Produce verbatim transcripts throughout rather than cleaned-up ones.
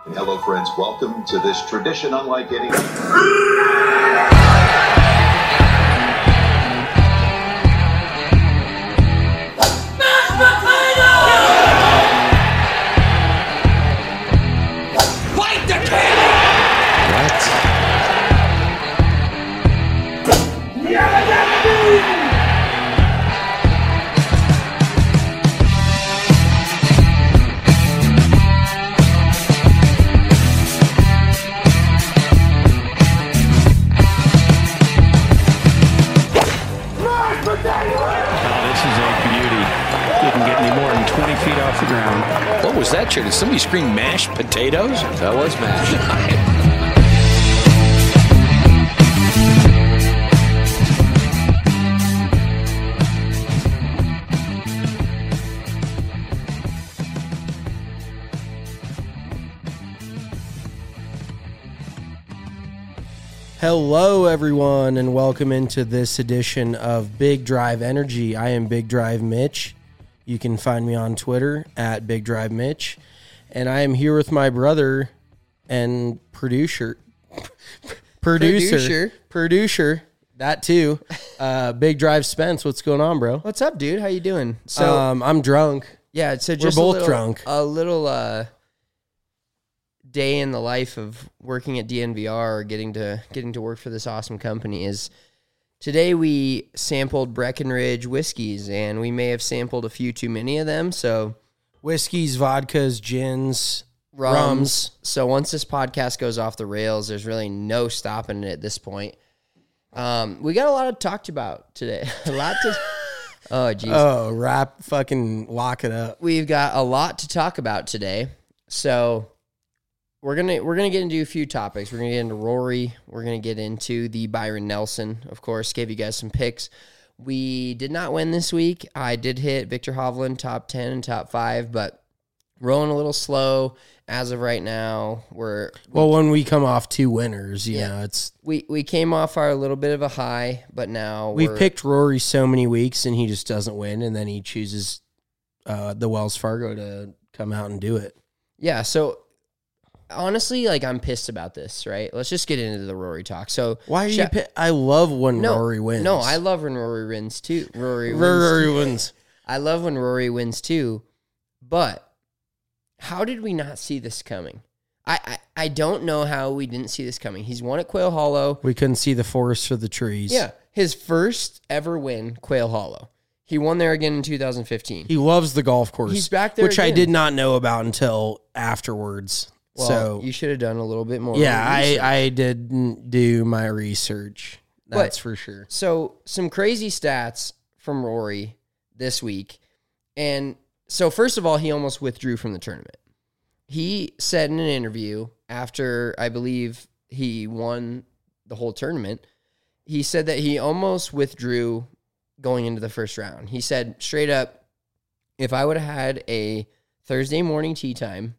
Hello, friends. Welcome to this tradition unlike any. Fight the king! What? Feet off the ground. What was that, chair? Did somebody scream mashed potatoes? That was mashed. Hello, everyone, and welcome into this edition of Big Drive Energy. I am Big Drive Mitch. You can find me on Twitter at Big Drive Mitch, and I am here with my brother and producer, producer, Producer. producer, that too, uh, Big Drive Spence. What's going on, bro? What's up, dude? How you doing? So, um, I'm drunk. yeah, so just we're a both little, drunk. A little uh, day in the life of working at D N V R or getting to getting to work for this awesome company is. Today we sampled Breckenridge whiskeys, and we may have sampled a few too many of them, so... Whiskeys, vodkas, gins, Rums. rums. So once this podcast goes off the rails, there's really no stopping it at this point. Um, we got a lot to talk about today. a lot to... Oh, geez. Oh, wrap, fucking lock it up. We've got a lot to talk about today, so... We're gonna we're gonna get into a few topics. We're gonna get into Rory. We're gonna get into the Byron Nelson. Of course, gave you guys some picks. We did not win this week. I did hit Victor Hovland top ten and top five, but rolling a little slow as of right now. We're Well, when we come off two winners, you Yeah. know, it's we we came off our little bit of a high, but now we've we're, picked Rory so many weeks and he just doesn't win, and then he chooses uh, the Wells Fargo to come out and do it. yeah. So honestly, like I'm pissed about this. Right? Let's just get into the Rory talk. So Why are you? Sha- Pi- I love when no, Rory wins. No, I love when Rory wins too. Rory wins. Rory wins. I love when Rory wins too, but how did we not see this coming? I, I, I don't know how we didn't see this coming. He's won at Quail Hollow. We couldn't see the forest for the trees. Yeah, his first ever win, Quail Hollow. He won there again in two thousand fifteen. He loves the golf course. He's back there which I again. did not know about until afterwards. Well, so you should have done a little bit more. yeah, I, research. I didn't do my research. That's But- for sure. So some crazy stats from Rory this week. And so first of all, he almost withdrew from the tournament. He said in an interview after, I believe, he won the whole tournament, he said that he almost withdrew going into the first round. He said straight up, if I would have had a Thursday morning tee time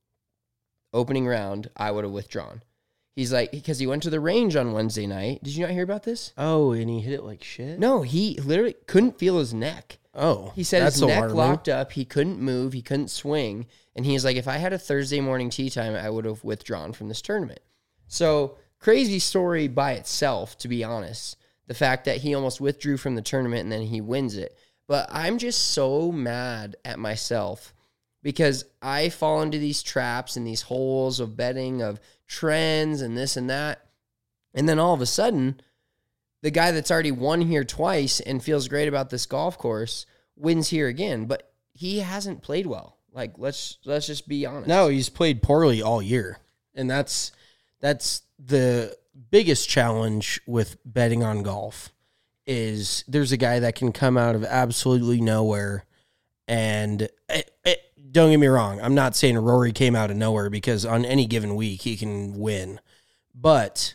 opening round, I would have withdrawn. He's like, because he went to the range on Wednesday night. Did you not hear about this? Oh, and he hit it like shit? No, he literally couldn't feel his neck. Oh, He said that's his neck alarming. locked up. He couldn't move. He couldn't swing. And he's like, if I had a Thursday morning tee time, I would have withdrawn from this tournament. So crazy story by itself, to be honest. The fact that he almost withdrew from the tournament and then he wins it. But I'm just so mad at myself because I fall into these traps and these holes of betting, of trends and this and that. And then all of a sudden, the guy that's already won here twice and feels great about this golf course wins here again, but he hasn't played well. Like, let's let's just be honest. No, he's played poorly all year. And that's that's the biggest challenge with betting on golf is there's a guy that can come out of absolutely nowhere. And it, it, don't get me wrong, I'm not saying Rory came out of nowhere because on any given week he can win. But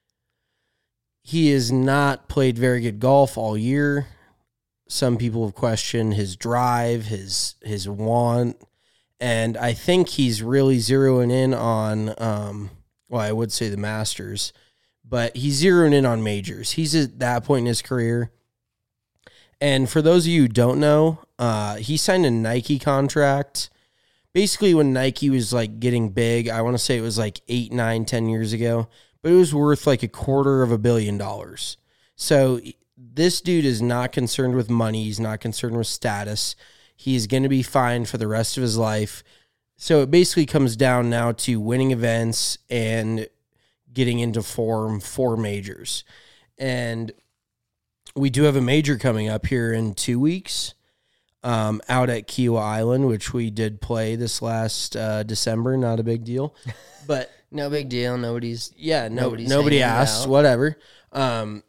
he has not played very good golf all year. Some people have questioned his drive, his his want, and I think he's really zeroing in on, um, well, I would say the Masters, but he's zeroing in on majors. He's at that point in his career. And for those of you who don't know, uh, he signed a Nike contract basically when Nike was like getting big, I want to say it was like eight, nine, ten years ago, but it was worth like a quarter of a billion dollars. So this dude is not concerned with money. He's not concerned with status. He's going to be fine for the rest of his life. So it basically comes down now to winning events and getting into form for majors. And we do have a major coming up here in two weeks um, out at Kiawah Island, which we did play this last uh, December. Not a big deal. But no big deal. Nobody's yeah, no, nobody's nobody asked, out. whatever. Um,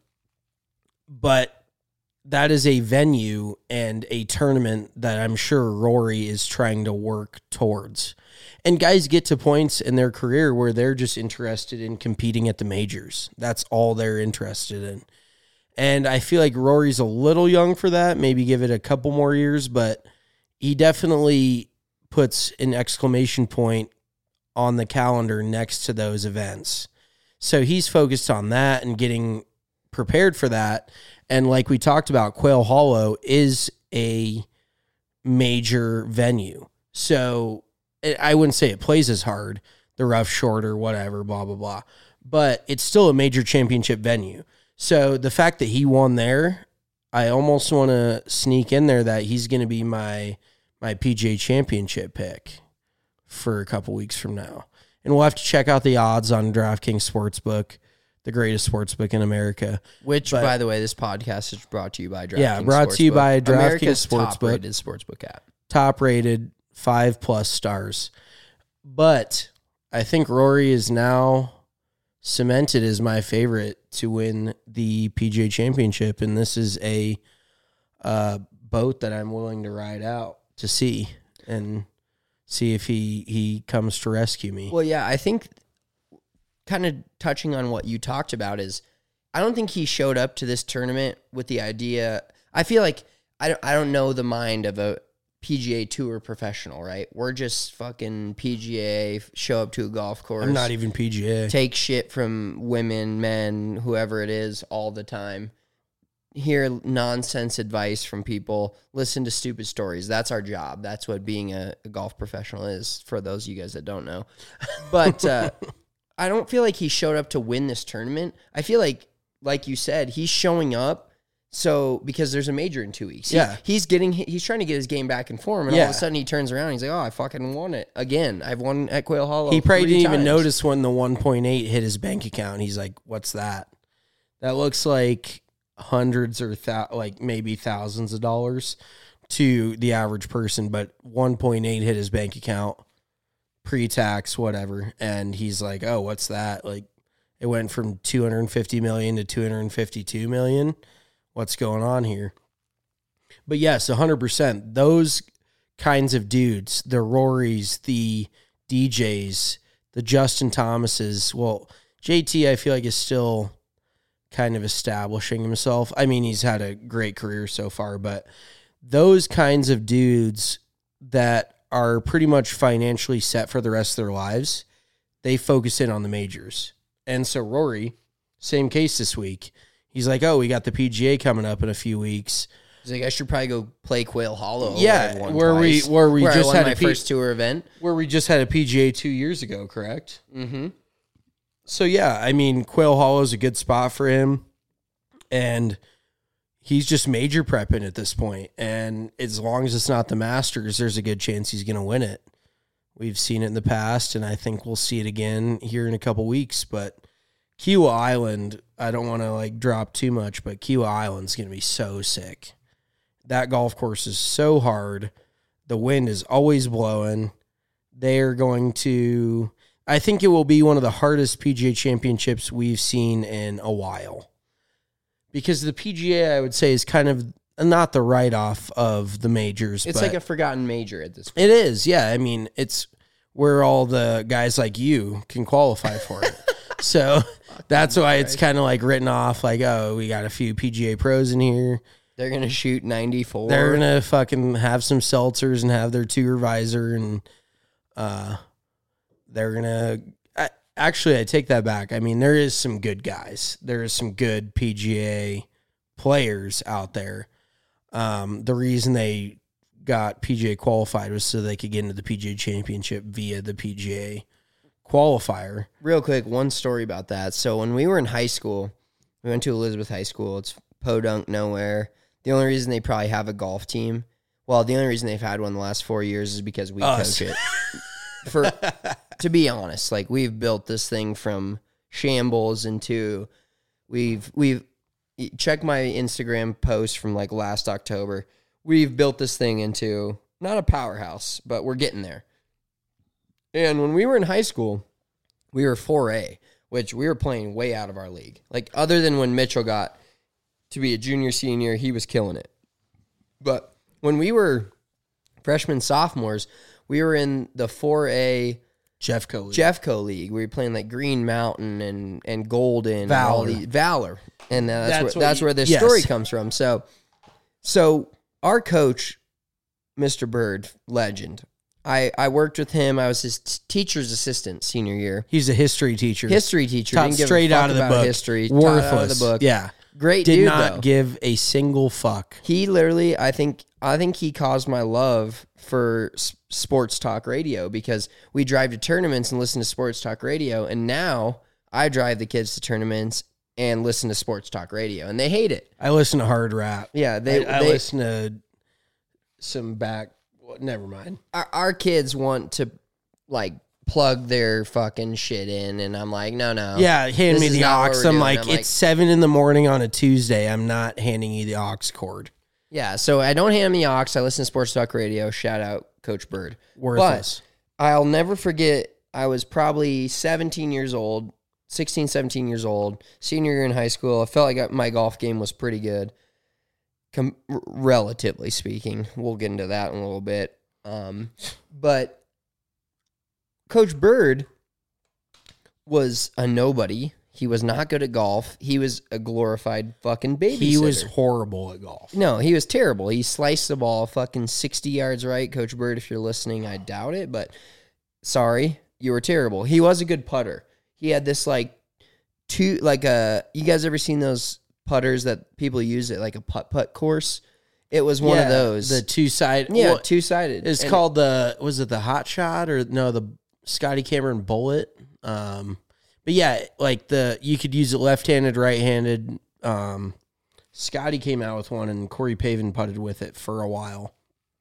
but that is a venue and a tournament that I'm sure Rory is trying to work towards. And guys get to points in their career where they're just interested in competing at the majors. That's all they're interested in. And I feel like Rory's a little young for that. Maybe give it a couple more years, but he definitely puts an exclamation point on the calendar next to those events. So he's focused on that and getting prepared for that. And like we talked about, Quail Hollow is a major venue. So I wouldn't say it plays as hard, the rough short or whatever, blah, blah, blah. But it's still a major championship venue. So the fact that he won there, I almost want to sneak in there that he's going to be my my P G A championship pick for a couple weeks from now. And we'll have to check out the odds on DraftKings Sportsbook, the greatest sportsbook in America. Which, But- by the way, this podcast is brought to you by DraftKings Yeah, brought to you Sportsbook. by DraftKings America's Sportsbook. top-rated sportsbook app. Top rated, five plus stars. But I think Rory is now cemented as my favorite to win the P G A championship. And this is a uh, boat that I'm willing to ride out to see and see if he, he comes to rescue me. Well, yeah, I think kind of touching on what you talked about is I don't think he showed up to this tournament with the idea. I feel like I don't, I don't know the mind of a P G A Tour professional, right? We're just fucking P G A, show up to a golf course. I'm not even P G A. Take shit from women, men, whoever it is all the time. Hear nonsense advice from people. Listen to stupid stories. That's our job. That's what being a, a golf professional is for those of you guys that don't know. But uh, I don't feel like he showed up to win this tournament. I feel like, like you said, he's showing up so because there's a major in two weeks. He- Yeah. he's getting he's trying to get his game back in form, and all Yeah. of a sudden he turns around and he's like, "Oh, I fucking won it again. I've won at Quail Hollow." He probably three didn't even times." notice when the one point eight hit his bank account. He's like, what's that? That looks like hundreds or thou- like maybe thousands of dollars to the average person, but one point eight hit his bank account, pre-tax, whatever. And he's like, oh, what's that? Like, it went from two hundred fifty million to two hundred fifty-two million. What's going on here? But yes, one hundred percent. Those kinds of dudes, the Rorys, the D Js, the Justin Thomases. Well, J T, I feel like, is still kind of establishing himself. I mean, he's had a great career so far, but those kinds of dudes that are pretty much financially set for the rest of their lives, they focus in on the majors. And so Rory, same case this week. He's like, oh, we got the P G A coming up in a few weeks. He's like, I should probably go play Quail Hollow. Yeah, where, I won where we- twice, where we I just won had my a P- first tour event. Where we just had a P G A two years ago, correct? Mm-hmm. So, yeah, I mean, Quail Hollow is a good spot for him. And he's just major prepping at this point. And as long as it's not the Masters, there's a good chance he's going to win it. We've seen it in the past, and I think we'll see it again here in a couple weeks. But Kiawah Island, I don't want to like drop too much, but Kiawah Island's going to be so sick. That golf course is so hard. The wind is always blowing. They're going to, I think it will be one of the hardest P G A championships we've seen in a while. Because the P G A, I would say, is kind of not the write-off of the majors. It's but like a forgotten major at this point. it is, yeah. I mean, it's where all the guys like you can qualify for it. So that's why it's kind of like written off like, oh, we got a few P G A pros in here. They're going to shoot ninety-four. They're going to fucking have some seltzers and have their tour visor, and uh, they're going to... Actually, I take that back. I mean, there is some good guys. There is some good P G A players out there. Um, the reason they got P G A qualified was so they could get into the P G A Championship via the P G A qualifier. Real quick, one story about that. So when we were in high school, we went to Elizabeth High School. It's podunk nowhere. The only reason they probably have a golf team, well, the only reason they've had one the last four years is because we Us. coach it. For to be honest, like we've built this thing from shambles into we've we've check my Instagram post from like last October. We've built this thing into not a powerhouse, but we're getting there. And when we were in high school, we were four A, which we were playing way out of our league. Like other than when Mitchell got to be a junior, senior, he was killing it. But when we were freshmen, sophomores, we were in the four A Jeffco League. Jeffco League. We were playing like Green Mountain and, and Golden. Valor. And all the, Valor. And uh, that's, That's where, what that's you- where this yes. story comes from. So, so our coach, Mister Bird, legend. I, I worked with him. I was his t- teacher's assistant senior year. He's a history teacher. History teacher. Taught Didn't give a straight fuck out of the about book. history. Taught Worthless. out of the book. Yeah. Great Did dude, not though. give a single fuck. He literally, I think, I think he caused my love for s- sports talk radio because we drive to tournaments and listen to sports talk radio, and now I drive the kids to tournaments and listen to sports talk radio, and they hate it. I listen to hard rap. Yeah, they. I, I they listen to some back. Well, never mind. our, our kids want to like plug their fucking shit in, and I'm like, no, no. Yeah, hand this me is the not what aux. we're I'm doing. like, I'm it's like- seven in the morning on a Tuesday. I'm not handing you the aux cord. Yeah, so I don't hand me aux. I listen to sports talk radio. Shout out Coach Bird. Worthless. But I'll never forget, I was probably seventeen years old, sixteen, seventeen years old, senior year in high school. I felt like I- my golf game was pretty good, com- r- relatively speaking. We'll get into that in a little bit. Um, but Coach Bird was a nobody. He was not good at golf. He was a glorified fucking babysitter. He was horrible at golf. No, he was terrible. He sliced the ball fucking sixty yards right. Coach Bird, if you're listening, I doubt it, but sorry, you were terrible. He was a good putter. He had this like two, like a, you guys ever seen those putters that people use at like a putt-putt course? It was one Yeah, of those. The two side. yeah, well, two-sided. It's And- called the, was it the Hot Shot or no, the Scotty Cameron Bullet? Um, but yeah, like the, you could use it left-handed, right-handed. Um, Scotty came out with one and Corey Pavin putted with it for a while.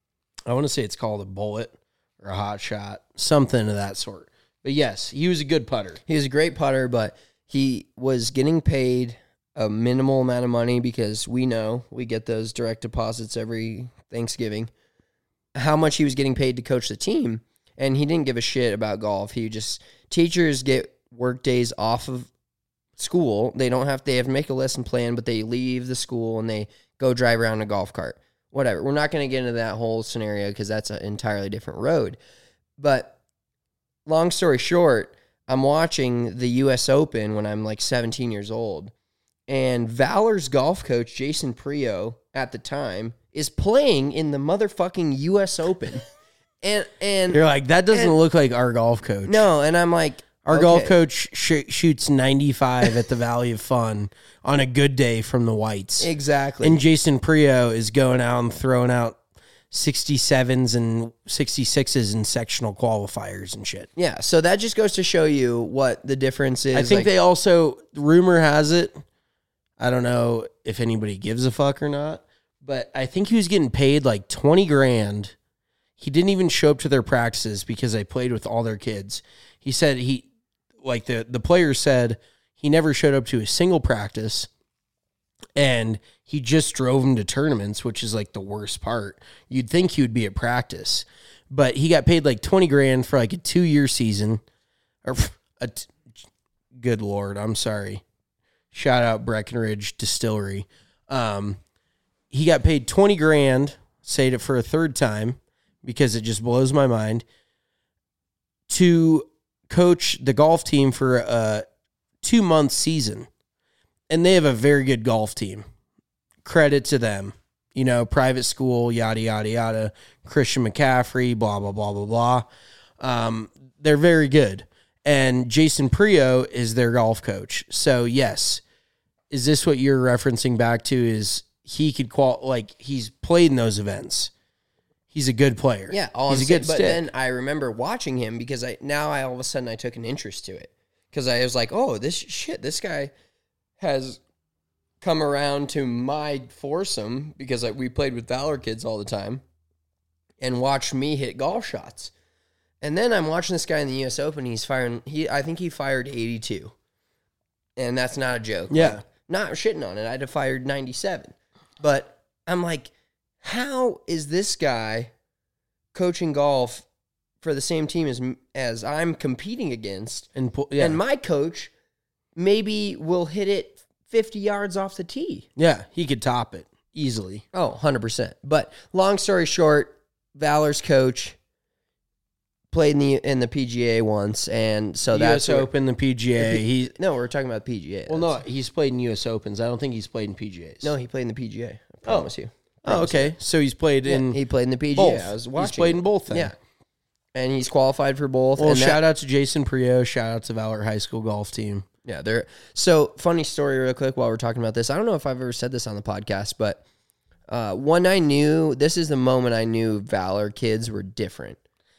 I want to say it's called a Bullet or a Hot Shot, something of that sort. But yes, he was a good putter. He was a great putter, but he was getting paid a minimal amount of money because we know we get those direct deposits every Thanksgiving. How much he was getting paid to coach the team, and he didn't give a shit about golf. He just, teachers get work days off of school. They don't have, they have to make a lesson plan, but they leave the school and they go drive around in a golf cart. Whatever. We're not going to get into that whole scenario because that's an entirely different road. But long story short, I'm watching the U S Open when I'm like seventeen years old, and Valor's golf coach, Jason Prio, at the time, is playing in the motherfucking U S Open. and and You're like, that doesn't and- look like our golf coach. no, and I'm like, Our okay. golf coach sh- shoots ninety-five at the Valley of Fun on a good day from the whites. Exactly. And Jason Prio is going out and throwing out sixty-sevens and sixty-sixes in sectional qualifiers and shit. yeah, so that just goes to show you what the difference is. I think like, they also, rumor has it, I don't know if anybody gives a fuck or not, but I think he was getting paid like twenty grand. He didn't even show up to their practices because they played with all their kids. He said he, like the, the player said, he never showed up to a single practice, and he just drove him to tournaments, which is like the worst part. You'd think he would be at practice, but he got paid like twenty grand for like a two year season, or a t- good Lord, I'm sorry. Shout out Breckenridge Distillery. Um, he got paid twenty grand, say it for a third time, because it just blows my mind, to coach the golf team for a two month season. And they have a very good golf team. Credit to them. You know, private school, yada, yada, yada. Christian McCaffrey, blah, blah, blah, blah, blah. Um, they're very good. And Jason Prio is their golf coach. So, yes. Is this what you're referencing back to? Is he could qual like he's played in those events. He's a good player. Yeah, all he's I'm a saying, good but stick. then I remember watching him because I now I all of a sudden I took an interest to it because I was like, oh, this shit, this guy has come around to my foursome because I, we played with Valor kids all the time and watched me hit golf shots. And then I'm watching this guy in the U S Open. He's firing. He I think he fired eighty-two, and that's not a joke. Yeah. Like, not shitting on it. I'd have fired ninety-seven, but I'm like, how is this guy coaching golf for the same team as as I'm competing against? And, yeah. And my coach maybe will hit it fifty yards off the tee. yeah, he could top it easily. Oh, one hundred percent. But long story short, Valor's coach played in the in the P G A once, and so U S that's where- Open, the P G A. He No, we're talking about the P G A. well, no, That's- he's played in U S Opens. I don't think he's played in P G As. no, he played in the P G A. I promise you. Oh, okay. So he's played Yeah, in he played in the P G A. both. I was He's watching. played in both. Then. Yeah, and he's qualified for both. Well, and that- shout out to Jason Prio. Shout out to Valor High School golf team. Yeah, they're so funny story real quick while we're talking about this. I don't know if I've ever said this on the podcast, but uh, when I knew this is the moment I knew Valor kids were different.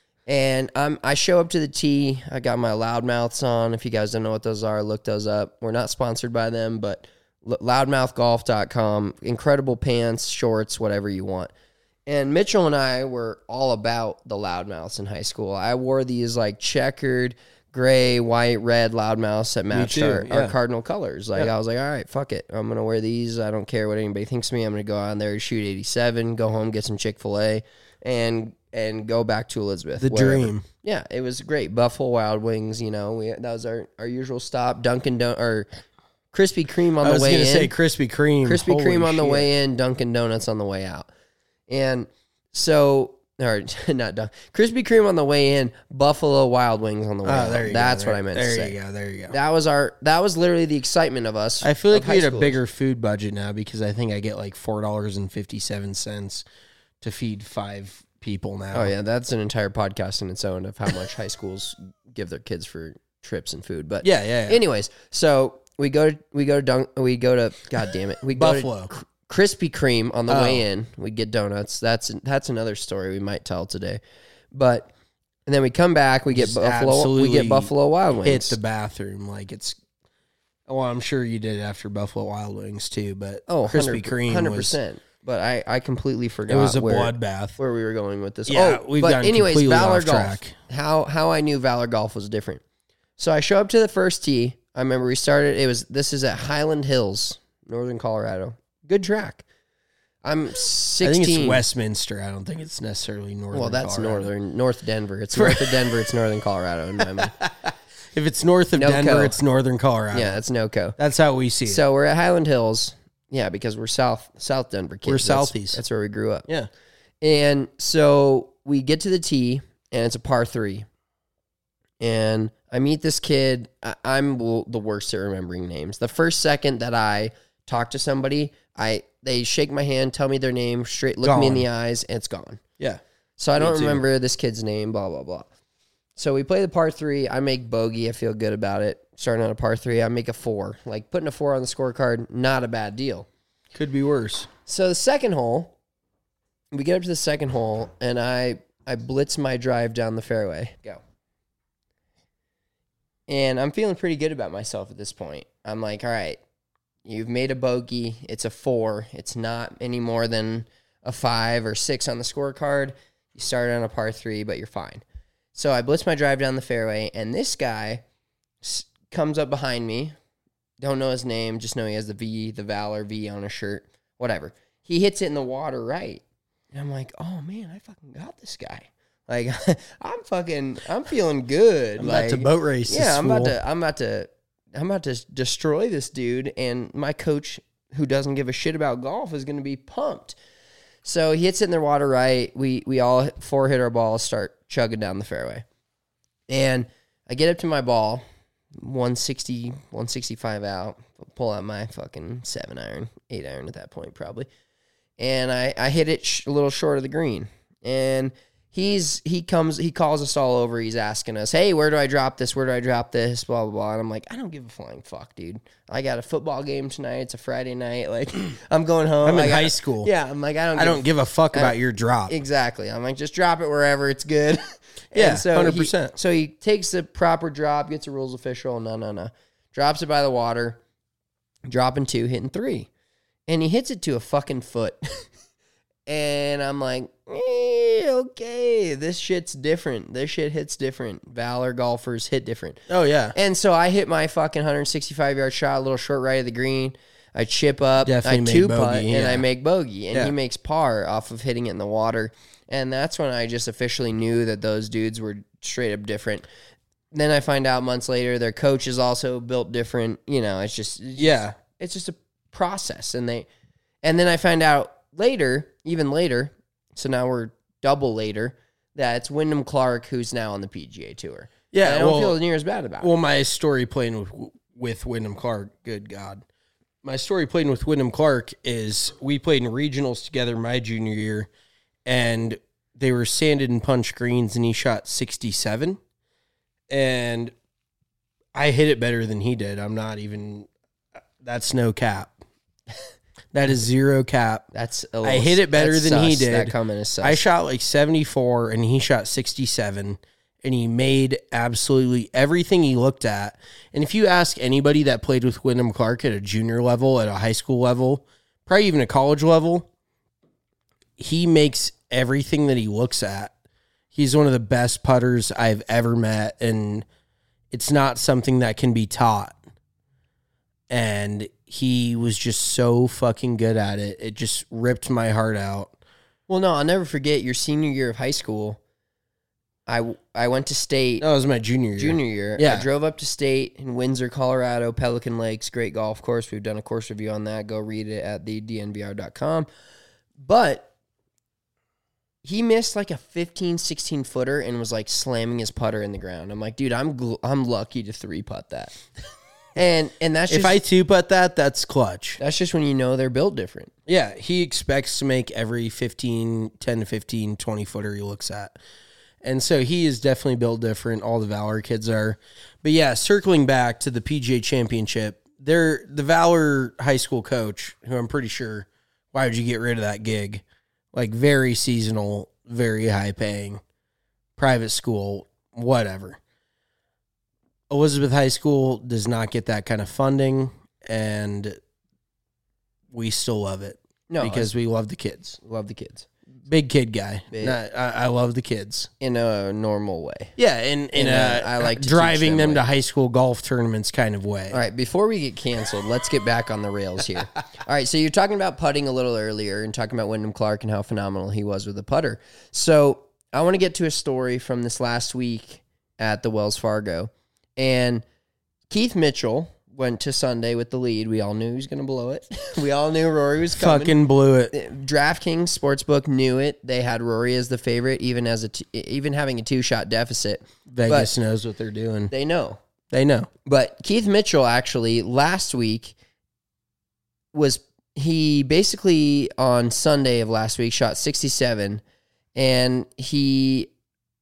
And I'm I show up to the tee. I got my loudmouths on. If you guys don't know what those are, look those up. We're not sponsored by them, but loudmouth golf dot com. Incredible pants, shorts, whatever you want. And Mitchell and I were all about the loudmouths in high school. I wore these like checkered gray, white, red loudmouths that matched too, our, yeah. our cardinal colors. Like I was like, all right, fuck it. I'm gonna wear these. I don't care what anybody thinks of me. I'm gonna go on there, shoot eighty-seven, go home, get some Chick-fil-A, and and go back to Elizabeth. The wherever. dream. Yeah, it was great. Buffalo Wild Wings, you know, we that was our, our usual stop. Dunkin' Don or Krispy Kreme on I the was way gonna in. say Krispy Kreme. Krispy Holy Kreme on the shit. way in, Dunkin' Donuts on the way out. And so, or not Dun- Krispy Kreme on the way in, Buffalo Wild Wings on the way Oh, out. there you That's go. what I meant there to say. you go. There you go. That was our. That was literally the excitement of us. I feel like of we high had a schoolers. bigger food budget now because I think I get like four dollars and fifty seven cents to feed five people now. Oh yeah, that's an entire podcast in its own of how much high schools give their kids for trips and food. But yeah, yeah. yeah. anyways, so we go to we go to Dunk, we go to God damn it, we go Buffalo. to Krispy Kreme on the Oh. way in. We get donuts. That's that's another story we might tell today. But and then we come back. We get Just Buffalo. We absolutely get Buffalo Wild Hit Wings. the bathroom like it's. Well, I'm sure you did after Buffalo Wild Wings too, but oh, Krispy Kreme hundred was percent. But I, I completely forgot. it was a where, bloodbath. where we were going with this. Yeah, oh, we've but gotten anyways, completely Valor off Golf. track. How how I knew Valor Golf was different. So I show up to the first tee. I remember we started. It was this is at Highland Hills, Northern Colorado. Good track. I'm sixteen. I think it's Westminster. I don't think it's necessarily northern. Well, that's Colorado. northern, North Denver. It's north of Denver. It's Northern Colorado in my mind. If it's north of No Denver, co. it's northern Colorado. Yeah, that's NOCO. That's how we see it. So we're at Highland Hills. Yeah, because we're south South Denver kids. We're That's- Southeast. That's where we grew up. Yeah. And so we get to the tee, and it's a par three. And I meet this kid. I, I'm w- the worst at remembering names. The first second that I talk to somebody, I they shake my hand, tell me their name, straight look me in Gone. the eyes, and it's gone. Yeah. So I Me don't too. remember this kid's name, blah, blah, blah. So we play the par three. I make bogey. I feel good about it. Starting on a par three, I make a four. Like putting a four on the scorecard, not a bad deal. Could be worse. So the second hole, we get up to the second hole, and I I blitz my drive down the fairway. Go. And I'm feeling pretty good about myself at this point. I'm like, all right, you've made a bogey. It's a four. It's not any more than a five or six on the scorecard. You started on a par three, but you're fine. So I blitz my drive down the fairway, and this guy s- comes up behind me. Don't know his name, just know he has the V, the Valor V on his shirt, whatever. He hits it in the water right. And I'm like, oh man, I fucking got this guy. Like, I'm fucking, I'm feeling good. I'm like, about to boat race. yeah, this I'm about fool. to, I'm about to, I'm about to destroy this dude. And my coach, who doesn't give a shit about golf, is going to be pumped. So he hits it in the water right. We we all four hit our balls, start chugging down the fairway. And I get up to my ball, one sixty, one sixty-five out, pull out my fucking seven iron, eight iron at that point probably. And I, I hit it sh- a little short of the green. And he's he comes he calls us all over. He's asking us, hey, where do I drop this? Where do I drop this? Blah blah blah. And I'm like, I don't give a flying fuck, dude. I got a football game tonight. It's a Friday night. Like, I'm going home. I'm in I got, high school. Yeah, I'm like, I don't. I give don't give a fuck about your drop. Exactly. I'm like, just drop it wherever. It's good. Yeah, And so one hundred he- percent. So he takes the proper drop, gets a rules official. No, no, no. Drops it by the water. Dropping two, hitting three. And he hits it to a fucking foot. And I'm like, eh, okay, this shit's different. This shit hits different. Valor golfers hit different. Oh, yeah. And so I hit my fucking one sixty-five yard shot, a little short right of the green. I chip up, Definitely I made two bogey, putt, and yeah. I make bogey. And Yeah. he makes par off of hitting it in the water. And that's when I just officially knew that those dudes were straight up different. Then I find out months later their coach is also built different. You know, it's just it's Yeah. just, it's just a process. And they and then I find out later, even later, so now we're double later, that it's Wyndham Clark who's now on the P G A Tour. Yeah, And I don't well- feel near as bad about it. Well, my story playing with with Wyndham Clark, good God. My story playing with Wyndham Clark is we played in regionals together my junior year, and they were sanded and punch greens, and he shot sixty-seven. And I hit it better than he did. I'm not even, that's no cap. That is zero cap. That's a I hit it better that's than he sus. did. That comment is sus. I shot like seventy-four and he shot sixty-seven, and he made absolutely everything he looked at. And if you ask anybody that played with Wyndham Clark at a junior level, at a high school level, probably even a college level, he makes everything that he looks at. He's one of the best putters I've ever met, and it's not something that can be taught. And he was just so fucking good at it. It just ripped my heart out. Well, no, I'll never forget your senior year of high school. I, I went to state That was my junior year. junior year. Yeah. I drove up to state in Windsor, Colorado, Pelican Lakes, great golf course. We've done a course review on that. Go read it at the d n v r dot com. But he missed like a fifteen, sixteen footer and was like slamming his putter in the ground. I'm like, dude, I'm gl- I'm lucky to three putt that. and and that's just If I two putt that, that's clutch. that's just when you know they're built different. Yeah, he expects to make every fifteen, ten to fifteen, twenty footer he looks at. And so he is definitely built different. All the Valor kids are. But yeah, circling back to the P G A Championship, they're the Valor high school coach, who I'm pretty sure, why would you get rid of that gig? Like very seasonal, very high paying, private school, whatever. Elizabeth High School does not get that kind of funding, and we still love it. No, because we love the kids. love the kids Big kid guy. Big. Not- I, I love the kids. in a normal way. Yeah, in in In a, a- I like to driving teach them them way. to high school golf tournaments kind of way. All right, before we get canceled, let's get back on the rails here. All right, so you're talking about putting a little earlier and talking about Wyndham Clark and how phenomenal he was with the putter. So I want to get to a story from this last week at the Wells Fargo. And Keith Mitchell went to Sunday with the lead. We all knew he was going to blow it. We all knew Rory was coming. Fucking blew it. DraftKings Sportsbook knew it. They had Rory as the favorite, even as a t- even having a two-shot deficit. Vegas knows what they're doing. They know. They know. But Keith Mitchell actually last week was he basically on Sunday of last week shot sixty-seven, and he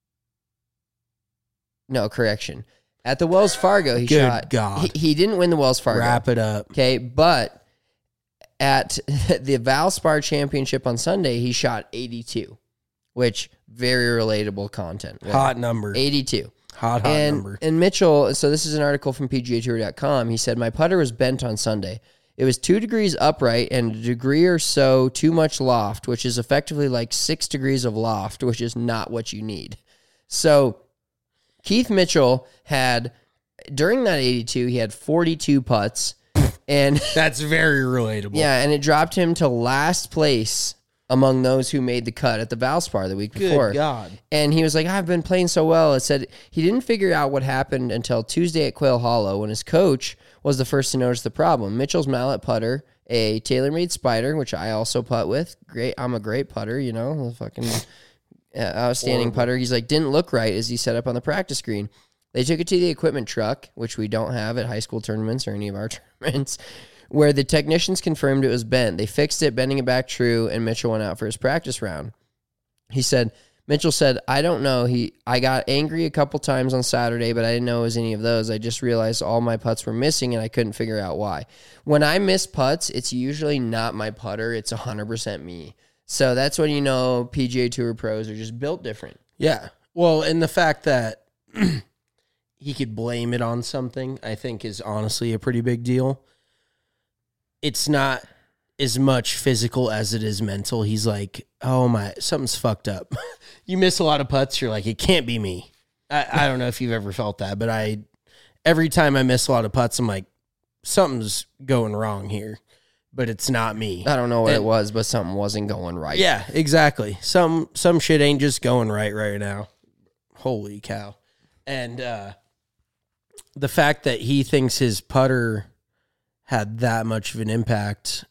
no correction at the Wells Fargo he Good shot. God. He, he didn't win the Wells Fargo. Wrap it up. Okay, but at the Valspar Championship on Sunday he shot eighty-two, which very relatable content. Hot number. eighty-two. Hot, hot and, number. And Mitchell, so this is an article from P G A Tour dot com. He said, my putter was bent on Sunday. It was two degrees upright and a degree or so too much loft, which is effectively like six degrees of loft, which is not what you need. So Keith Mitchell had, during that eighty-two, he had forty-two putts. And That's very relatable. yeah, and it dropped him to last place among those who made the cut at the Valspar the week Good before. God. And he was like, I've been playing so well. It said he didn't figure out what happened until Tuesday at Quail Hollow when his coach was the first to notice the problem. Mitchell's mallet putter, a TaylorMade Spider, which I also putt with. Great. I'm a great putter, you know, a fucking uh, outstanding putter. He's like, didn't look right as he set up on the practice green. They took it to the equipment truck, which we don't have at high school tournaments or any of our tournaments, where the technicians confirmed it was bent. They fixed it, bending it back true, and Mitchell went out for his practice round. He said, Mitchell said, I don't know. He, I got angry a couple times on Saturday, but I didn't know it was any of those. I just realized all my putts were missing, and I couldn't figure out why. When I miss putts, it's usually not my putter. It's one hundred percent me. So that's when you know P G A Tour pros are just built different. Yeah. Well, and the fact that he could blame it on something, I think, is honestly a pretty big deal. It's not as much physical as it is mental. He's like, oh my, something's fucked up. You miss a lot of putts, you're like, it can't be me. I, I don't know if you've ever felt that, but I, every time I miss a lot of putts, I'm like, something's going wrong here, but it's not me. I don't know what And- it was, but something wasn't going right. Yeah, exactly. Some some shit ain't just going right right now. Holy cow. And uh, the fact that he thinks his putter had that much of an impact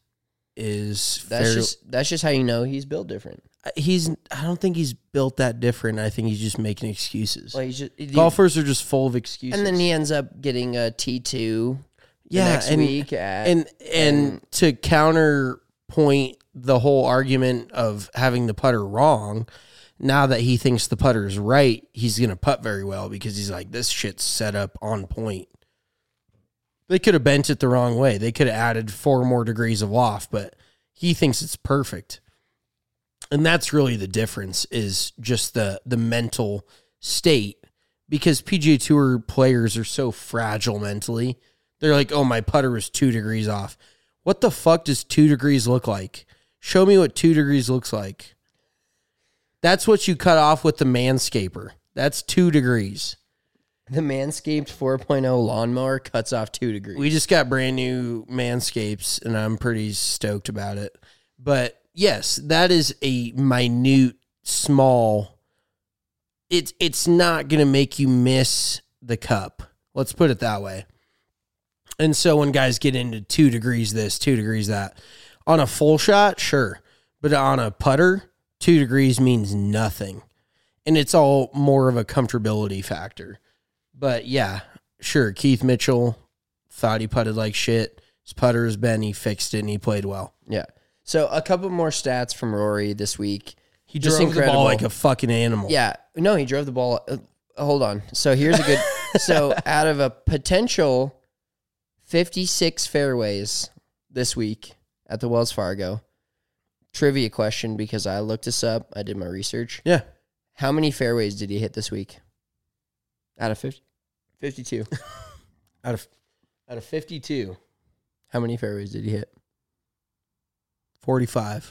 is That's fair. just that's just how you know he's built different. He's I don't think he's built that different. I think he's just making excuses. Like he's just, Golfers are just full of excuses. and then he ends up getting a T two yeah, next and, week at and and to counterpoint the whole argument of having the putter wrong, now that he thinks the putter is right, he's going to putt very well because he's like, this shit's set up on point. They could have bent it the wrong way. They could have added four more degrees of loft, but he thinks it's perfect. And that's really the difference, is just the the mental state, because P G A Tour players are so fragile mentally. They're like, oh, my putter was two degrees off. What the fuck does two degrees look like? Show me what two degrees looks like. That's what you cut off with the Manscaper. That's two degrees. the Manscaped four point oh lawnmower cuts off two degrees. We just got brand new Manscapes, and I'm pretty stoked about it. But yes, that is a minute, small. It's it's not going to make you miss the cup. Let's put it that way. And so when guys get into two degrees this, two degrees that, on a full shot, sure. But on a putter, two degrees means nothing. And it's all more of a comfortability factor. But yeah, sure, Keith Mitchell thought he putted like shit. His putter has been, he fixed it, and he played well. Yeah. So a couple more stats from Rory this week. He Just drove the incredible. ball like a fucking animal. Yeah. No, he drove the ball. Uh, hold on. So here's a good. So out of a potential fifty-six fairways this week at the Wells Fargo, trivia question, because I looked this up. I did my research. Yeah. How many fairways did he hit this week? Out of fifty? fifty-two. Out of out of fifty-two, How many fairways did he hit? forty-five.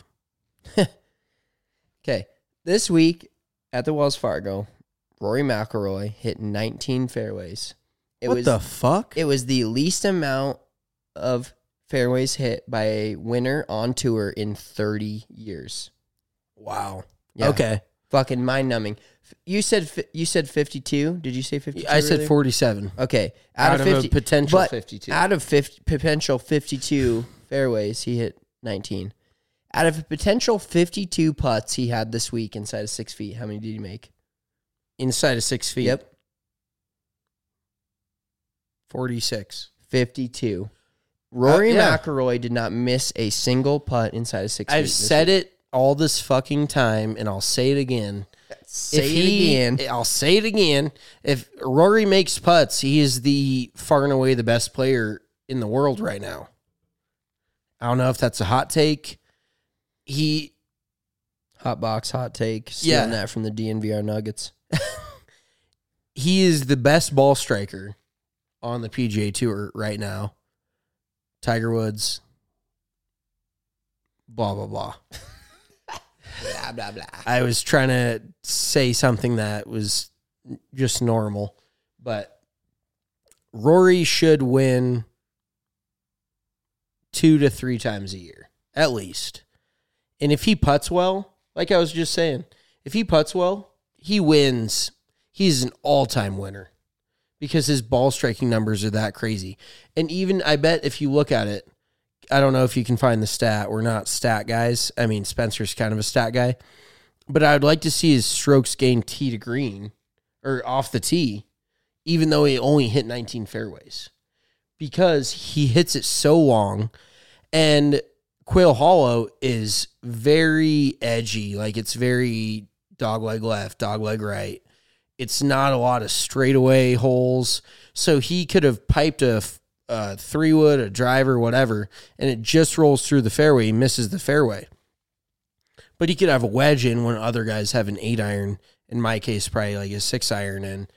Okay. This week at the Wells Fargo, Rory McIlroy hit nineteen fairways. It what was the fuck? it was the least amount of fairways hit by a winner on tour in thirty years. Wow. Yeah. Okay. Fucking mind-numbing. You said fi- you said fifty-two? Did you say fifty-two? I said earlier? forty-seven. Okay. Out, Out, of, of fifty a potential but fifty-two. Out of fifty, potential fifty-two fairways, he hit nineteen. Out of a potential fifty-two putts he had this week inside of six feet, how many did he make? Inside of six feet. Yep. forty-six. fifty-two. Rory Uh, yeah. McIlroy did not miss a single putt inside of six feet. I've this said week. it all this fucking time, and I'll say it again. Say if it he, again. I'll say it again. If Rory makes putts, he is the far and away the best player in the world right now. I don't know if that's a hot take. He, Hot box, hot take. Stealing Yeah. that from the D N V R Nuggets. he is the best ball striker on the P G A Tour right now. Tiger Woods. Blah, blah, blah. Blah, blah, blah. I was trying to say something that was just normal, but Rory should win two to three times a year, at least. And if he putts well, like I was just saying, if he putts well, he wins. He's an all-time winner because his ball striking numbers are that crazy. And even, I bet if you look at it, I don't know if you can find the stat. We're not stat guys. I mean, Spencer's kind of a stat guy. But I would like to see his strokes gain tee to green or off the tee, even though he only hit nineteen fairways, because he hits it so long. And Quail Hollow is very edgy. Like, it's very dog leg left, dog leg right. It's not a lot of straightaway holes. So he could have piped a, a three wood, a driver, whatever, and it just rolls through the fairway. He misses the fairway. But he could have a wedge in when other guys have an eight iron. In my case, probably like a six iron in.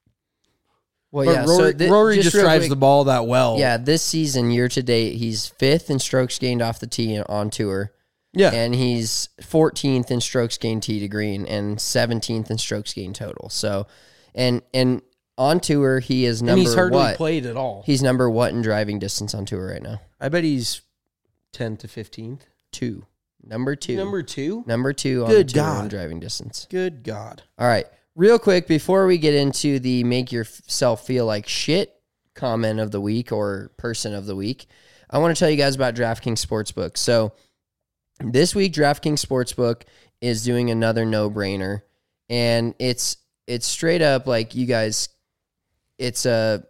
Well, but yeah, Rory, so th- Rory just just real drives quick- the ball that well. Yeah, this season, year to date, he's fifth in strokes gained off the tee on tour. Yeah. And he's fourteenth in strokes gained tee to green and seventeenth in strokes gained total. So, and and on tour, he is number and he's hardly what? played at all. He's number what in driving distance on tour right now? I bet he's tenth to fifteenth. Two. Number two. Number two? Number two on Good the tour God. in driving distance. Good God. All right. Real quick, before we get into the make yourself feel like shit comment of the week or person of the week, I want to tell you guys about DraftKings Sportsbook. So this week, DraftKings Sportsbook is doing another no-brainer, and it's it's straight up like you guys, it's a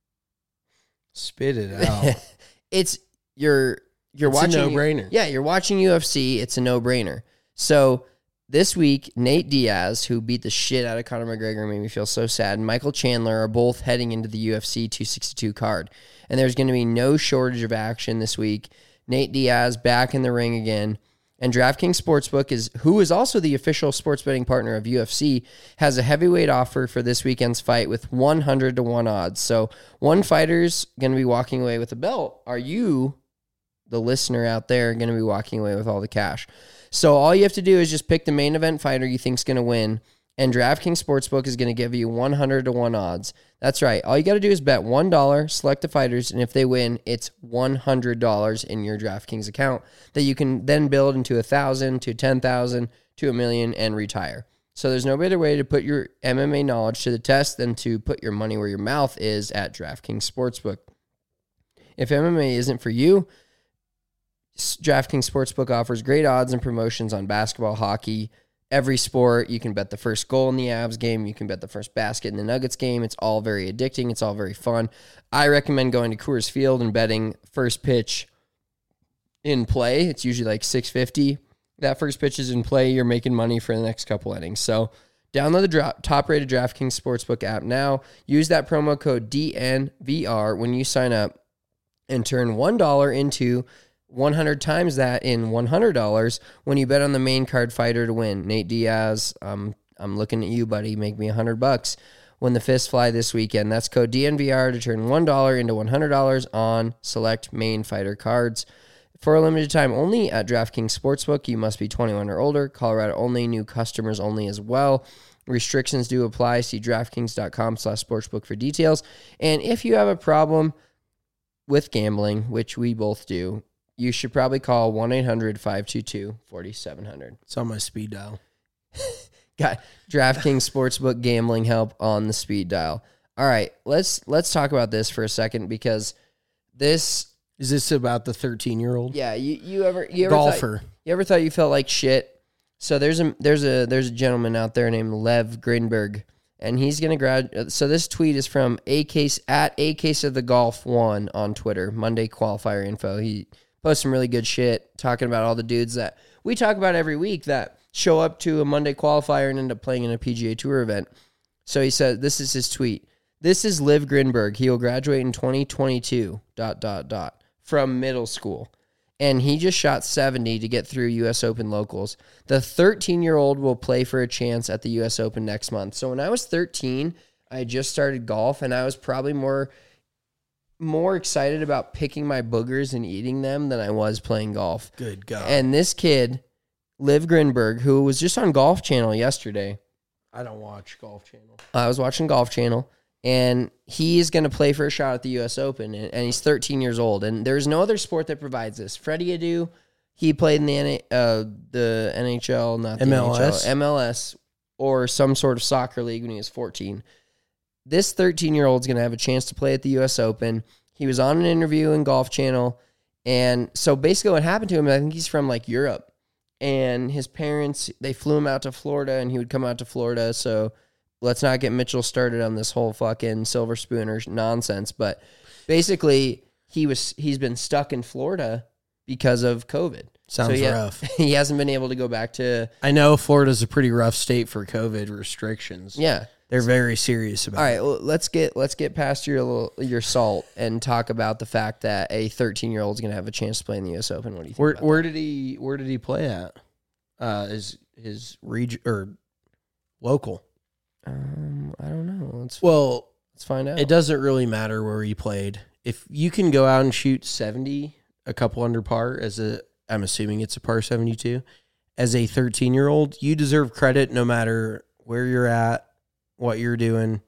Spit it out. it's you're you're It's a watching no-brainer. Yeah, you're watching U F C. It's a no-brainer. So this week, Nate Diaz, who beat the shit out of Conor McGregor, made me feel so sad, and Michael Chandler are both heading into the U F C two sixty-two card. And there's going to be no shortage of action this week. Nate Diaz back in the ring again. And DraftKings Sportsbook, is who is also the official sports betting partner of U F C, has a heavyweight offer for this weekend's fight with one hundred to one odds. So one fighter's going to be walking away with a belt. Are you, the listener out there, going to be walking away with all the cash? So all you have to do is just pick the main event fighter you think's going to win, and DraftKings Sportsbook is going to give you one hundred to one odds. That's right. All you got to do is bet one dollar, select the fighters, and if they win, it's one hundred dollars in your DraftKings account that you can then build into one thousand dollars to ten thousand dollars to a million and retire. So there's no better way to put your M M A knowledge to the test than to put your money where your mouth is at DraftKings Sportsbook. If M M A isn't for you, DraftKings Sportsbook offers great odds and promotions on basketball, hockey, every sport. You can bet the first goal in the Avs game. You can bet the first basket in the Nuggets game. It's all very addicting. It's all very fun. I recommend going to Coors Field and betting first pitch in play. It's usually like six fifty. That first pitch is in play. You're making money for the next couple innings. So download the dra- top-rated DraftKings Sportsbook app now. Use that promo code D N V R when you sign up and turn one dollar into one hundred times that in one hundred dollars when you bet on the main card fighter to win. Nate Diaz, um, I'm looking at you, buddy. Make me one hundred bucks when the fists fly this weekend. That's code D N V R to turn one dollar into one hundred dollars on select main fighter cards. For a limited time only at DraftKings Sportsbook, you must be twenty-one or older. Colorado only, new customers only as well. Restrictions do apply. See DraftKings.com slash sportsbook for details. And if you have a problem with gambling, which we both do, you should probably call one eight hundred five two two four seven zero zero. It's on my speed dial. Got DraftKings Sportsbook gambling help on the speed dial. All right, let's let's talk about this for a second because this Is this about the thirteen-year-old? yeah, you, you ever you ever Golfer. Thought, you ever thought you felt like shit? So there's a there's a there's a gentleman out there named Lev Grinberg, and he's gonna grad. So this tweet is from a case at a case of the golf one on Twitter. Monday qualifier info. He post some really good shit talking about all the dudes that we talk about every week that show up to a Monday qualifier and end up playing in a P G A Tour event. So he said, this is his tweet. This is Liv Grinberg. He will graduate in twenty twenty-two, dot, dot, dot, from middle school. And he just shot seventy to get through U S Open locals. The thirteen-year-old will play for a chance at the U S Open next month. So when I was thirteen, I just started golf, and I was probably more... more excited about picking my boogers and eating them than I was playing golf. Good God. And this kid, Liv Grinberg, who was just on Golf Channel yesterday. I don't watch Golf Channel. I was watching Golf Channel, and he's going to play for a shot at the U S Open, and, and he's thirteen years old. And there's no other sport that provides this. Freddie Adu, he played in the N- uh, the N H L, not the M L S? N H L, M L S, or some sort of soccer league when he was fourteen. This thirteen-year-old's going to have a chance to play at the U S Open. He was on an interview in Golf Channel, and so basically what happened to him, I think he's from, like, Europe, and his parents, they flew him out to Florida, and he would come out to Florida, so let's not get Mitchell started on this whole fucking silver spooner nonsense, but basically he was he's been stuck in Florida because of COVID. Sounds so he, rough. He hasn't been able to go back to. I know Florida's a pretty rough state for COVID restrictions. Yeah. They're very serious about All right, it. well, let's get let's get past your little, your salt and talk about the fact that a thirteen year old is going to have a chance to play in the U S Open. What do you think? Where about where did he where did he play at? Uh, is his region or local? that? Um, I don't know. Let's Well, let's find out. it doesn't really matter where he played. If you can go out and shoot seventy, a couple under par as a, I'm assuming it's a par seventy-two, as a thirteen year old, you deserve credit no matter where you're at, what you're doing.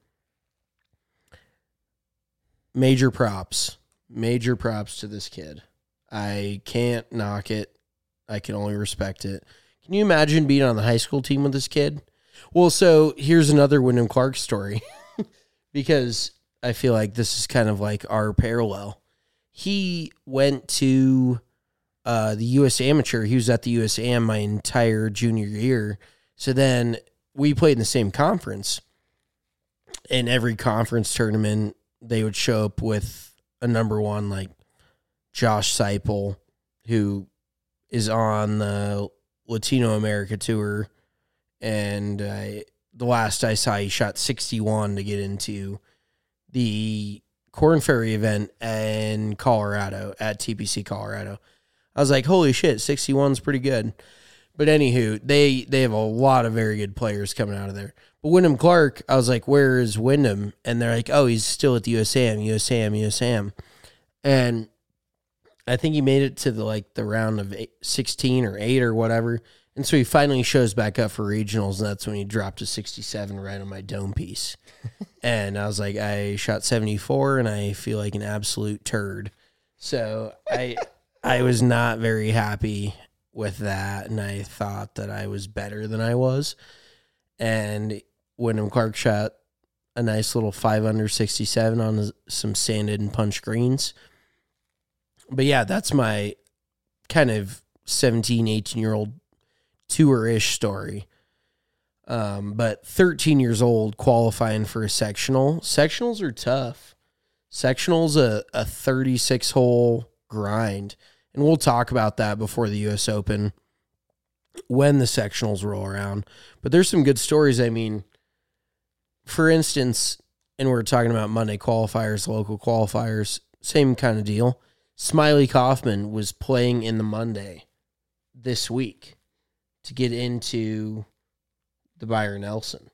Major props. Major props to this kid. I can't knock it. I can only respect it. Can you imagine being on the high school team with this kid? Well, so here's another Wyndham Clark story because I feel like this is kind of like our parallel. He went to uh, the U S Amateur. He was at the U S A M my entire junior year. So then we played in the same conference. In every conference tournament, they would show up with a number one, like Josh Seipel, who is on the Latino America tour. And uh, the last I saw, he shot sixty-one to get into the Corn Ferry event in Colorado at T P C Colorado. I was like, holy shit, sixty-one's pretty good. But anywho, they, they have a lot of very good players coming out of there. But Wyndham Clark, I was like, where is Wyndham? And they're like, oh, he's still at the U S A M, U S A M, U S A M. And I think he made it to the like the round of eight, sixteen or eight or whatever. And so he finally shows back up for regionals, and that's when he dropped a sixty-seven right on my dome piece. And I was like, I shot seventy-four, and I feel like an absolute turd. So I I was not very happy with that, and I thought that I was better than I was. And Wyndham Clark shot a nice little five under sixty-seven on some sanded and punch greens. But yeah, that's my kind of seventeen, eighteen-year-old tour-ish story. Um, but thirteen years old qualifying for a sectional. Sectionals are tough. Sectionals a, a thirty-six hole grind. And we'll talk about that before the U S Open when the sectionals roll around. But there's some good stories. I mean, for instance, and we're talking about Monday qualifiers, local qualifiers, same kind of deal. Smiley Kaufman was playing in the Monday this week to get into the Byron Nelson.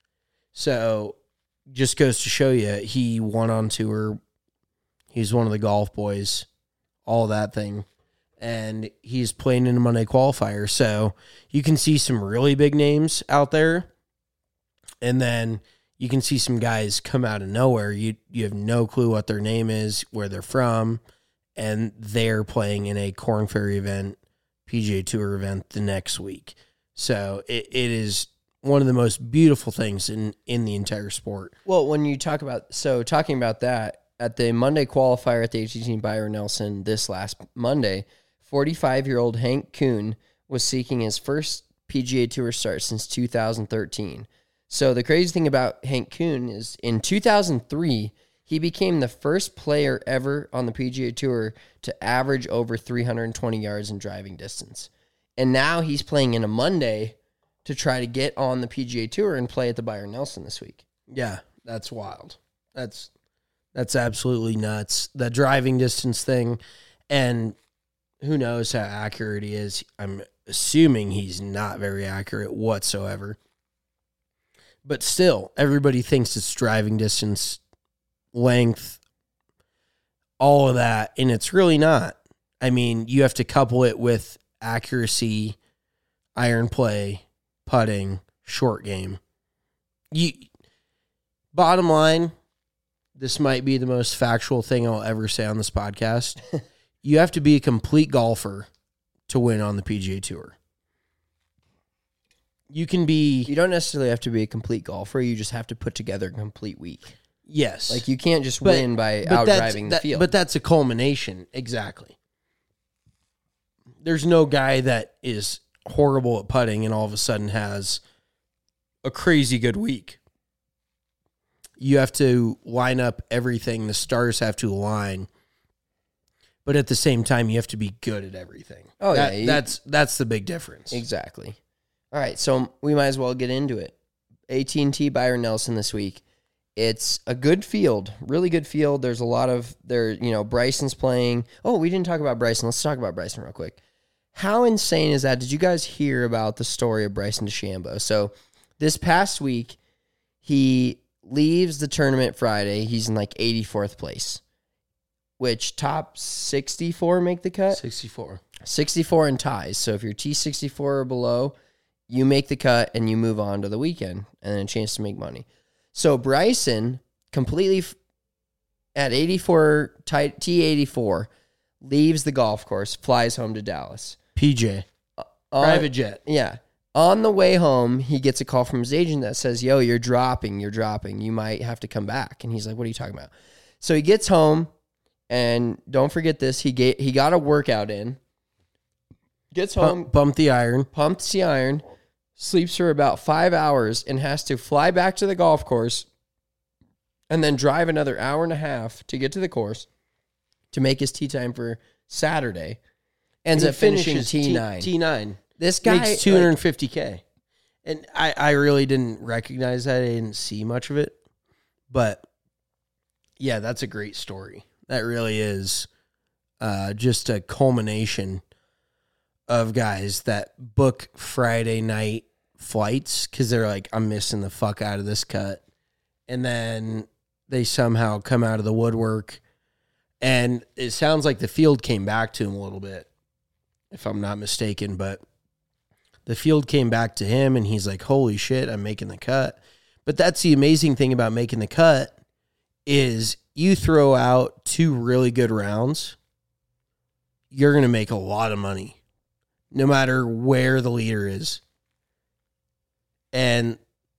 So just goes to show you, he won on tour. He's one of the golf boys, all that thing. And he's playing in a Monday qualifier. So you can see some really big names out there. And then you can see some guys come out of nowhere. You you have no clue what their name is, where they're from. And they're playing in a Corn Ferry event, P G A Tour event the next week. So it, it is one of the most beautiful things in, in the entire sport. Well, when you talk about, so talking about that, at the Monday qualifier at the H T C Byron Nelson this last Monday, forty-five-year-old Hank Kuhn was seeking his first P G A Tour start since two thousand thirteen. So the crazy thing about Hank Kuhn is in two thousand three, he became the first player ever on the P G A Tour to average over three hundred twenty yards in driving distance. And now he's playing in a Monday to try to get on the P G A Tour and play at the Byron Nelson this week. Yeah, that's wild. That's that's absolutely nuts. The driving distance thing, and who knows how accurate he is. I'm assuming he's not very accurate whatsoever. But still, everybody thinks it's driving distance, length, all of that, and it's really not. I mean, you have to couple it with accuracy, iron play, putting, short game. You, bottom line, this might be the most factual thing I'll ever say on this podcast. You have to be a complete golfer to win on the P G A Tour. You can be... You don't necessarily have to be a complete golfer. You just have to put together a complete week. Yes. Like, you can't just But- win by but out that's- driving the that- field. But that's a culmination. Exactly. There's no guy that is horrible at putting and all of a sudden has a crazy good week. You have to line up everything. The stars have to align but at the same time, you have to be good at everything. Oh, That- yeah, you- that's that's the big difference. Exactly. All right, so we might as well get into it. A T and T Byron Nelson this week. It's a good field, really good field. There's a lot of there. You know, Bryson's playing. Oh, we didn't talk about Bryson. Let's talk about Bryson real quick. How insane is that? Did you guys hear about the story of Bryson DeChambeau? So this past week, he leaves the tournament Friday. He's in like eighty-fourth place, which top sixty-four make the cut? sixty-four. sixty-four in ties. So if you're T sixty-four or below, you make the cut and you move on to the weekend and then a chance to make money. So Bryson completely f- at eighty-four, T eighty-four, leaves the golf course, flies home to Dallas. P J. On- Private jet. Yeah. On the way home, he gets a call from his agent that says, yo, you're dropping, you're dropping. You might have to come back. And he's like, what are you talking about? So he gets home, and don't forget this, he get, he got a workout in, gets home, Bump, bump the iron. pumps the iron, sleeps for about five hours, and has to fly back to the golf course and then drive another hour and a half to get to the course to make his tee time for Saturday. Ends And up he finishing finishes T nine. T nine. This guy Makes two hundred fifty K. And I, I really didn't recognize that. I didn't see much of it. But yeah, that's a great story. That really is uh, just a culmination of guys that book Friday night flights because they're like, I'm missing the fuck out of this cut. And then they somehow come out of the woodwork. And it sounds like the field came back to him a little bit, if I'm not mistaken. But the field came back to him, and he's like, holy shit, I'm making the cut. But that's the amazing thing about making the cut is you throw out two really good rounds, you're going to make a lot of money, no matter where the leader is. And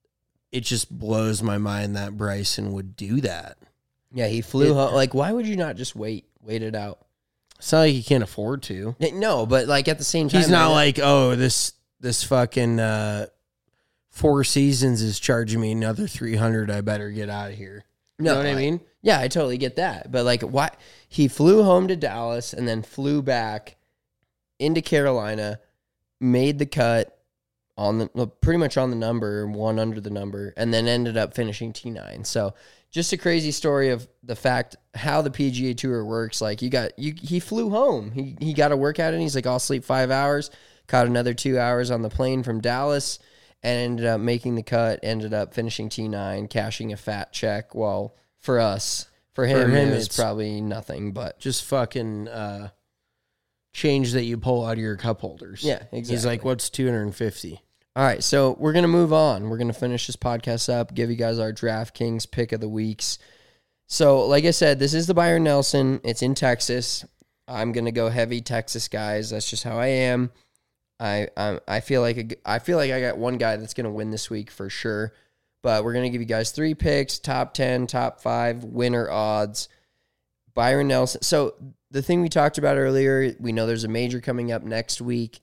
it just blows my mind that Bryson would do that. Yeah, he flew It- home. Like, why would you not just wait, wait it out? It's not like he can't afford to. No, but like at the same time, He's not man, like, oh, this this fucking uh, Four Seasons is charging me another three hundred. I better get out of here. You No, know what I I- mean? Yeah, I totally get that. But like, why he flew home to Dallas and then flew back into Carolina, made the cut on the well, pretty much on the number, one under the number, and then ended up finishing T nine. So just a crazy story of the fact how the P G A Tour works. Like you got you, he flew home. He he got a workout in. He's like, I'll sleep five hours. Caught another two hours on the plane from Dallas, and ended up making the cut. Ended up finishing T nine, cashing a fat check. Well, for us, for him, him, it was it's- probably nothing. But Just fucking uh, change that you pull out of your cup holders. Yeah, He's exactly. like, what's two hundred fifty? all right, so we're gonna move on. We're gonna finish this podcast up. Give you guys our DraftKings pick of the weeks. So, like I said, this is the Byron Nelson. It's in Texas. I'm gonna go heavy Texas guys. That's just how I am. I I, I feel like a, I feel like I got one guy that's gonna win this week for sure. But we're gonna give you guys three picks: top ten, top five, winner odds. Byron Nelson. So the thing we talked about earlier, we know there's a major coming up next week.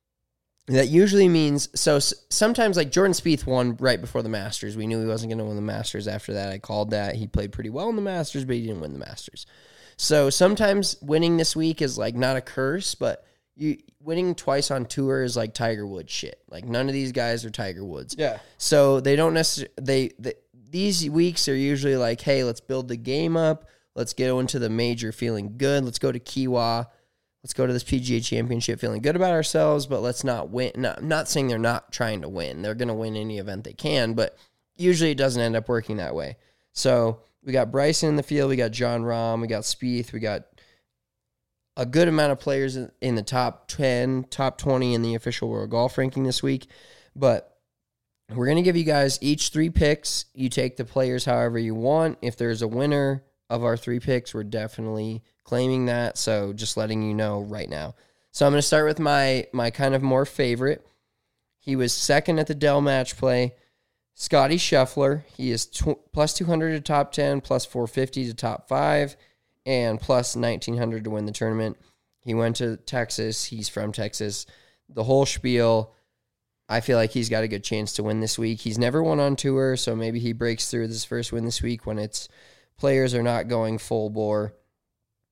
That usually means, so s- sometimes like Jordan Spieth won right before the Masters. We knew he wasn't going to win the Masters after that. I called that. He played pretty well in the Masters, but he didn't win the Masters. So sometimes winning this week is like not a curse, but you winning twice on tour is like Tiger Woods shit. Like none of these guys are Tiger Woods. Yeah. So they don't necessarily, they, they, these weeks are usually like, hey, let's build the game up. Let's go into the major feeling good. Let's go to Kiawah. Let's go to this P G A Championship feeling good about ourselves, but let's not win. No, I'm not saying they're not trying to win. They're going to win any event they can, but usually it doesn't end up working that way. So we got Bryson in the field. We got Jon Rahm. We got Spieth. We got a good amount of players in, in the top ten, top twenty in the official World Golf Ranking this week. But we're going to give you guys each three picks. You take the players however you want. If there's a winner of our three picks, we're definitely claiming that. So just letting you know right now. So I'm going to start with my my kind of more favorite. He was second at the Dell Match Play. Scotty Scheffler. He is tw- plus two hundred to top ten, plus four fifty to top five, and plus nineteen hundred to win the tournament. He went to Texas. He's from Texas. The whole spiel. I feel like he's got a good chance to win this week. He's never won on tour, so maybe he breaks through this first win this week when it's players are not going full bore.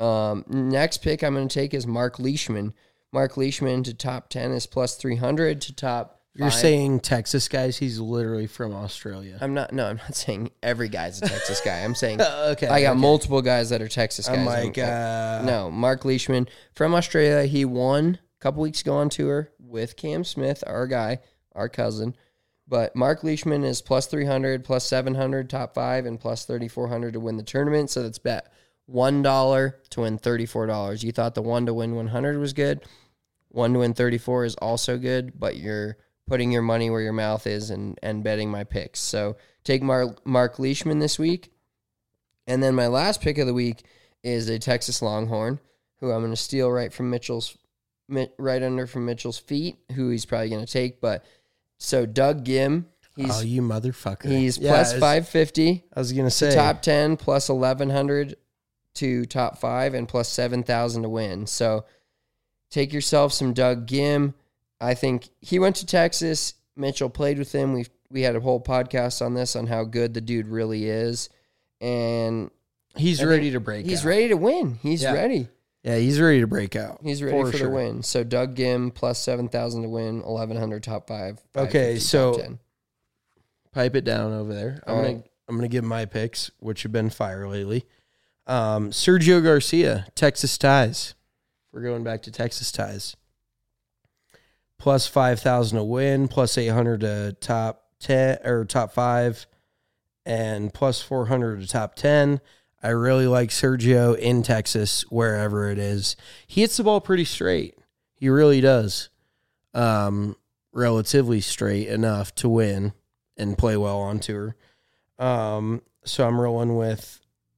Um, next pick I'm going to take is Mark Leishman. Mark Leishman to top ten is plus three hundred to top You're five. saying Texas guys? He's literally from Australia. I'm not, no, I'm not saying every guy's a Texas guy. I'm saying okay. I got okay. multiple guys that are Texas guys. I'm like, I'm- uh, no, Mark Leishman from Australia. He won a couple weeks ago on tour with Cam Smith, our guy, our cousin. But Mark Leishman is plus three hundred, plus seven hundred, top five, and plus thirty-four hundred to win the tournament. So that's bet one dollar to win thirty-four dollars. You thought the one to win one hundred was good. one to win thirty-four is also good, but you're putting your money where your mouth is and, and betting my picks. So take Mark, Mark Leishman this week. And then my last pick of the week is a Texas Longhorn, who I'm going to steal right from Mitchell's, right under from Mitchell's feet, who he's probably going to take. But so Doug Gim, he's oh, you motherfucker. he's Yeah, plus it's- five fifty I was gonna to say top ten, plus eleven hundred to top five, and plus seven thousand to win. So take yourself some Doug Gim. I think he went to Texas. Mitchell played with him. We we had a whole podcast on this on how good the dude really is, and he's I ready think to break. he's out. ready to win. He's Yeah. ready. Yeah, he's ready to break out. He's ready for, sure. the win. So Doug Gim plus seven thousand to win, eleven hundred top five. Okay, 550 so- top ten. Pipe it down over there. I'm All gonna right. I'm gonna give my picks, which have been fire lately. Um, Sergio Garcia, Texas ties. We're going back to Texas ties. Plus five thousand to win, plus eight hundred to top ten or top five, and plus four hundred to top ten. I really like Sergio in Texas, wherever it is. He hits the ball pretty straight. He really does. Um, relatively straight enough to win and play well on tour. Um, so I'm rolling with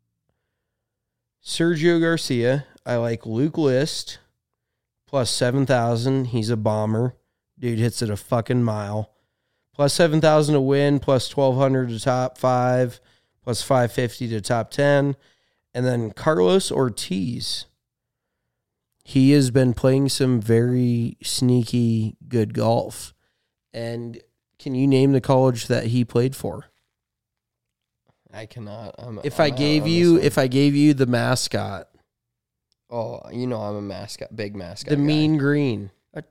Sergio Garcia. I like Luke List plus seven thousand. He's a bomber. Dude hits it a fucking mile. Plus seven thousand to win, plus twelve hundred to top five, plus five fifty to top ten. And then Carlos Ortiz. He has been playing some very sneaky good golf. And can you name the college that he played for? I cannot. I'm, If I'm I out gave on you this one. if I gave you the mascot, oh, you know I'm a mascot, big mascot. the guy. mean green.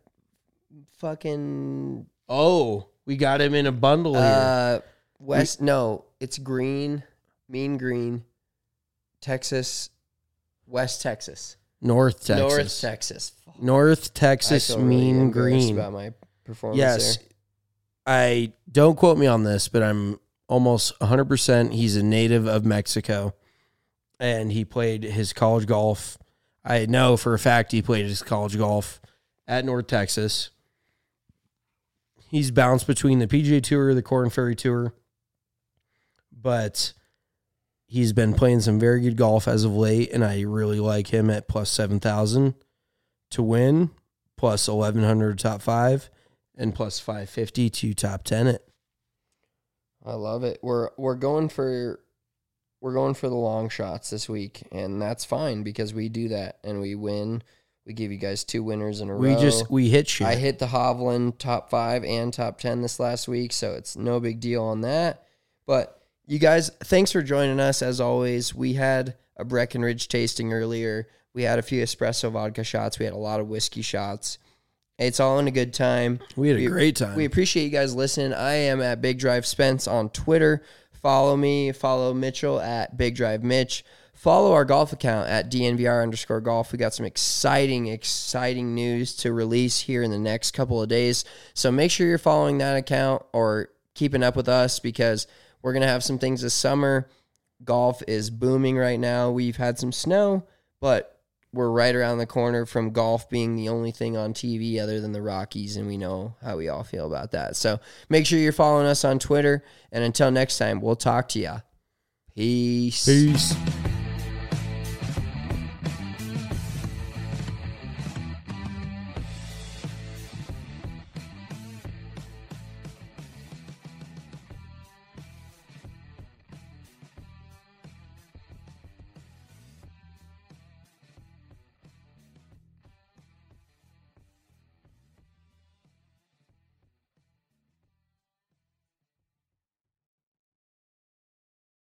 fucking Oh, we got him in a bundle here. uh West. No, it's green, mean green, Texas, West Texas, North Texas. North Texas. Fuck. North I Texas feel really mean embarrassed green. about my performance. Yes. there. I don't quote me on this, but I'm almost one hundred percent he's a native of Mexico. And he played his college golf. I know for a fact he played his college golf at North Texas. He's bounced between the P G A Tour, the Korn Ferry Tour. But he's been playing some very good golf as of late, and I really like him at plus seven thousand to win, plus eleven hundred top five, and plus five fifty to top ten it. I love it. We're we're going for we're going for the long shots this week, and that's fine because we do that and we win. We give you guys two winners in a We row. just, we hit shit. I hit the Hovland top five and top ten this last week, so it's no big deal on that. But you guys, thanks for joining us. As always, we had a Breckenridge tasting earlier. We had a few espresso vodka shots. We had a lot of whiskey shots. It's all in a good time. We had a We- great time. We appreciate you guys listening. I am at Big Drive Spence on Twitter. Follow me. Follow Mitchell at Big Drive Mitch. Follow our golf account at D N V R underscore golf. We got some exciting, exciting news to release here in the next couple of days. So make sure you're following that account or keeping up with us because we're going to have some things this summer. Golf is booming right now. We've had some snow, but we're right around the corner from golf being the only thing on T V other than the Rockies, and we know how we all feel about that. So make sure you're following us on Twitter, and until next time, we'll talk to ya. Peace. Peace.